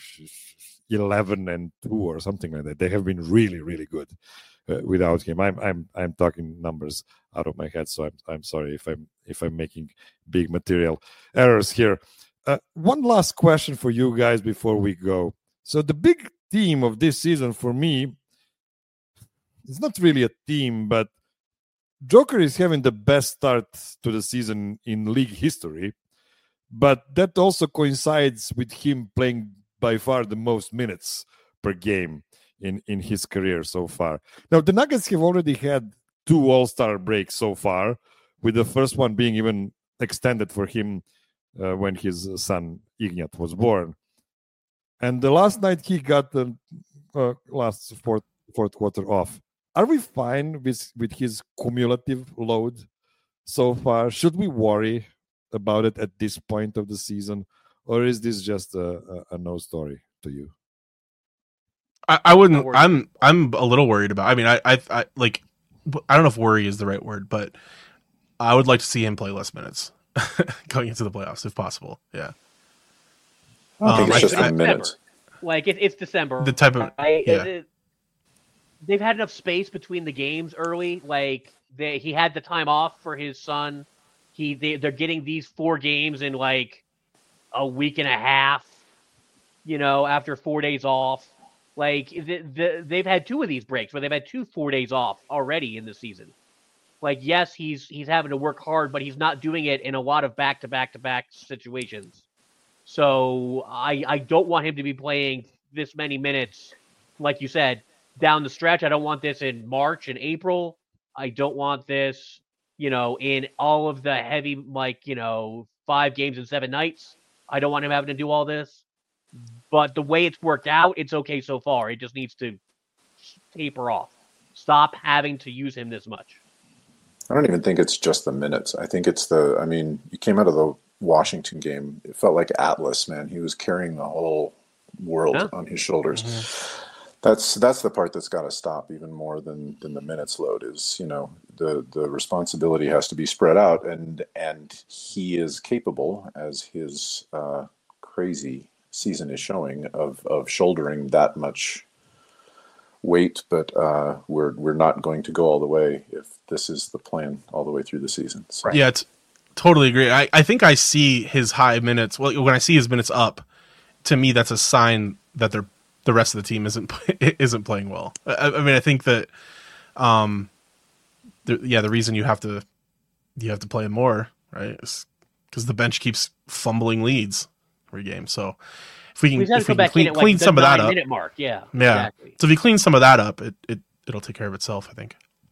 11-2 or something like that. They have been really, really good without him. I'm talking numbers out of my head, so I'm sorry if I'm making big material errors here. One last question for you guys before we go. So the big theme of this season for me, it's not really a theme, but Joker is having the best start to the season in league history, but that also coincides with him playing by far the most minutes per game in his career so far. Now, the Nuggets have already had 2 All-Star breaks so far, with the first one being even extended for him when his son Ignat was born. And the last night he got the last fourth quarter off. Are we fine with his cumulative load so far? Should we worry about it at this point of the season, or is this just a no story to you? I wouldn't. I'm a little worried about. I mean, I like. I don't know if worry is the right word, but I would like to see him play less minutes going into the playoffs if possible. Yeah. I think it's just the minutes. Like it's December. The type of they've had enough space between the games early. Like he had the time off for his son. They're getting these 4 games in like a week and a half. After 4 days off. Like they've had 2 of these breaks where they've had 2 4 days off already in the season. Like yes, he's having to work hard, but he's not doing it in a lot of back-to-back situations. So I don't want him to be playing this many minutes, like you said, down the stretch. I don't want this in March and April. I don't want this, in all of the heavy, 5 games in 7 nights. I don't want him having to do all this. But the way it's worked out, it's okay so far. It just needs to taper off. Stop having to use him this much. I don't even think it's just the minutes. I think it's you came out of the Washington game. It felt like Atlas, man. He was carrying the whole world on his shoulders. Mm-hmm. That's the part that's got to stop even more than the minutes load is, the responsibility has to be spread out and he is capable, as his crazy season is showing, of shouldering that much weight, but we're not going to go all the way if this is the plan all the way through the season. So. Yeah, totally agree. I think I see his high minutes. Well, when I see his minutes up, to me that's a sign that the rest of the team isn't playing well. I mean, I think that the reason you have to play him more, right, is because the bench keeps fumbling leads every game. So if we can clean some of that up, mark. Yeah, exactly. So if you clean some of that up, it'll take care of itself, I think.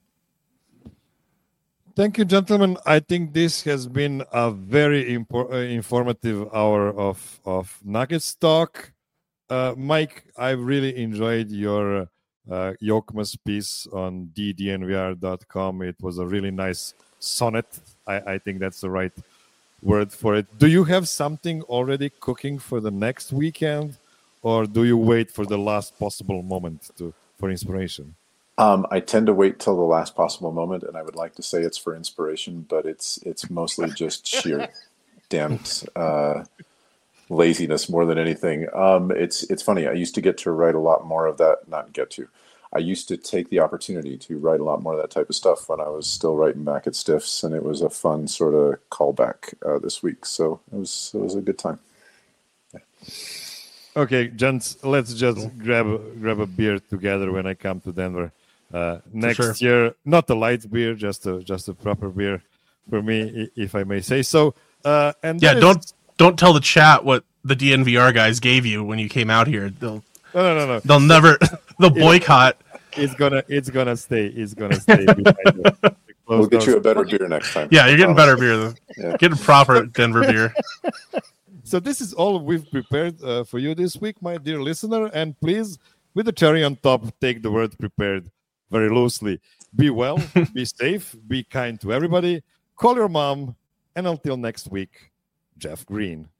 Thank you, gentlemen. I think this has been a very informative hour of Nuggets talk. Mike, I really enjoyed your Jokmas piece on ddnvr.com. It was a really nice sonnet. I think that's the right word for it. Do you have something already cooking for the next weekend, or do you wait for the last possible moment for inspiration? I tend to wait till the last possible moment, and I would like to say it's for inspiration, but it's mostly just sheer damned laziness more than anything. It's funny. I used to get to write a lot more of that. I used to take the opportunity to write a lot more of that type of stuff when I was still writing back at Stiffs, and it was a fun sort of callback this week. So it was a good time. Yeah. Okay, gents, let's just grab a beer together when I come to Denver next year. Not a light beer, just a proper beer for me, if I may say so. Don't tell the chat what the DNVR guys gave you when you came out here. No. They'll never. They'll boycott. It's gonna stay. We'll get you a better beer next time. Yeah, you're getting better beer. Yeah. Getting proper Denver beer. So this is all we've prepared for you this week, my dear listener. And please, with the cherry on top, take the word prepared very loosely. Be well, be safe, be kind to everybody. Call your mom. And until next week, Jeff Green.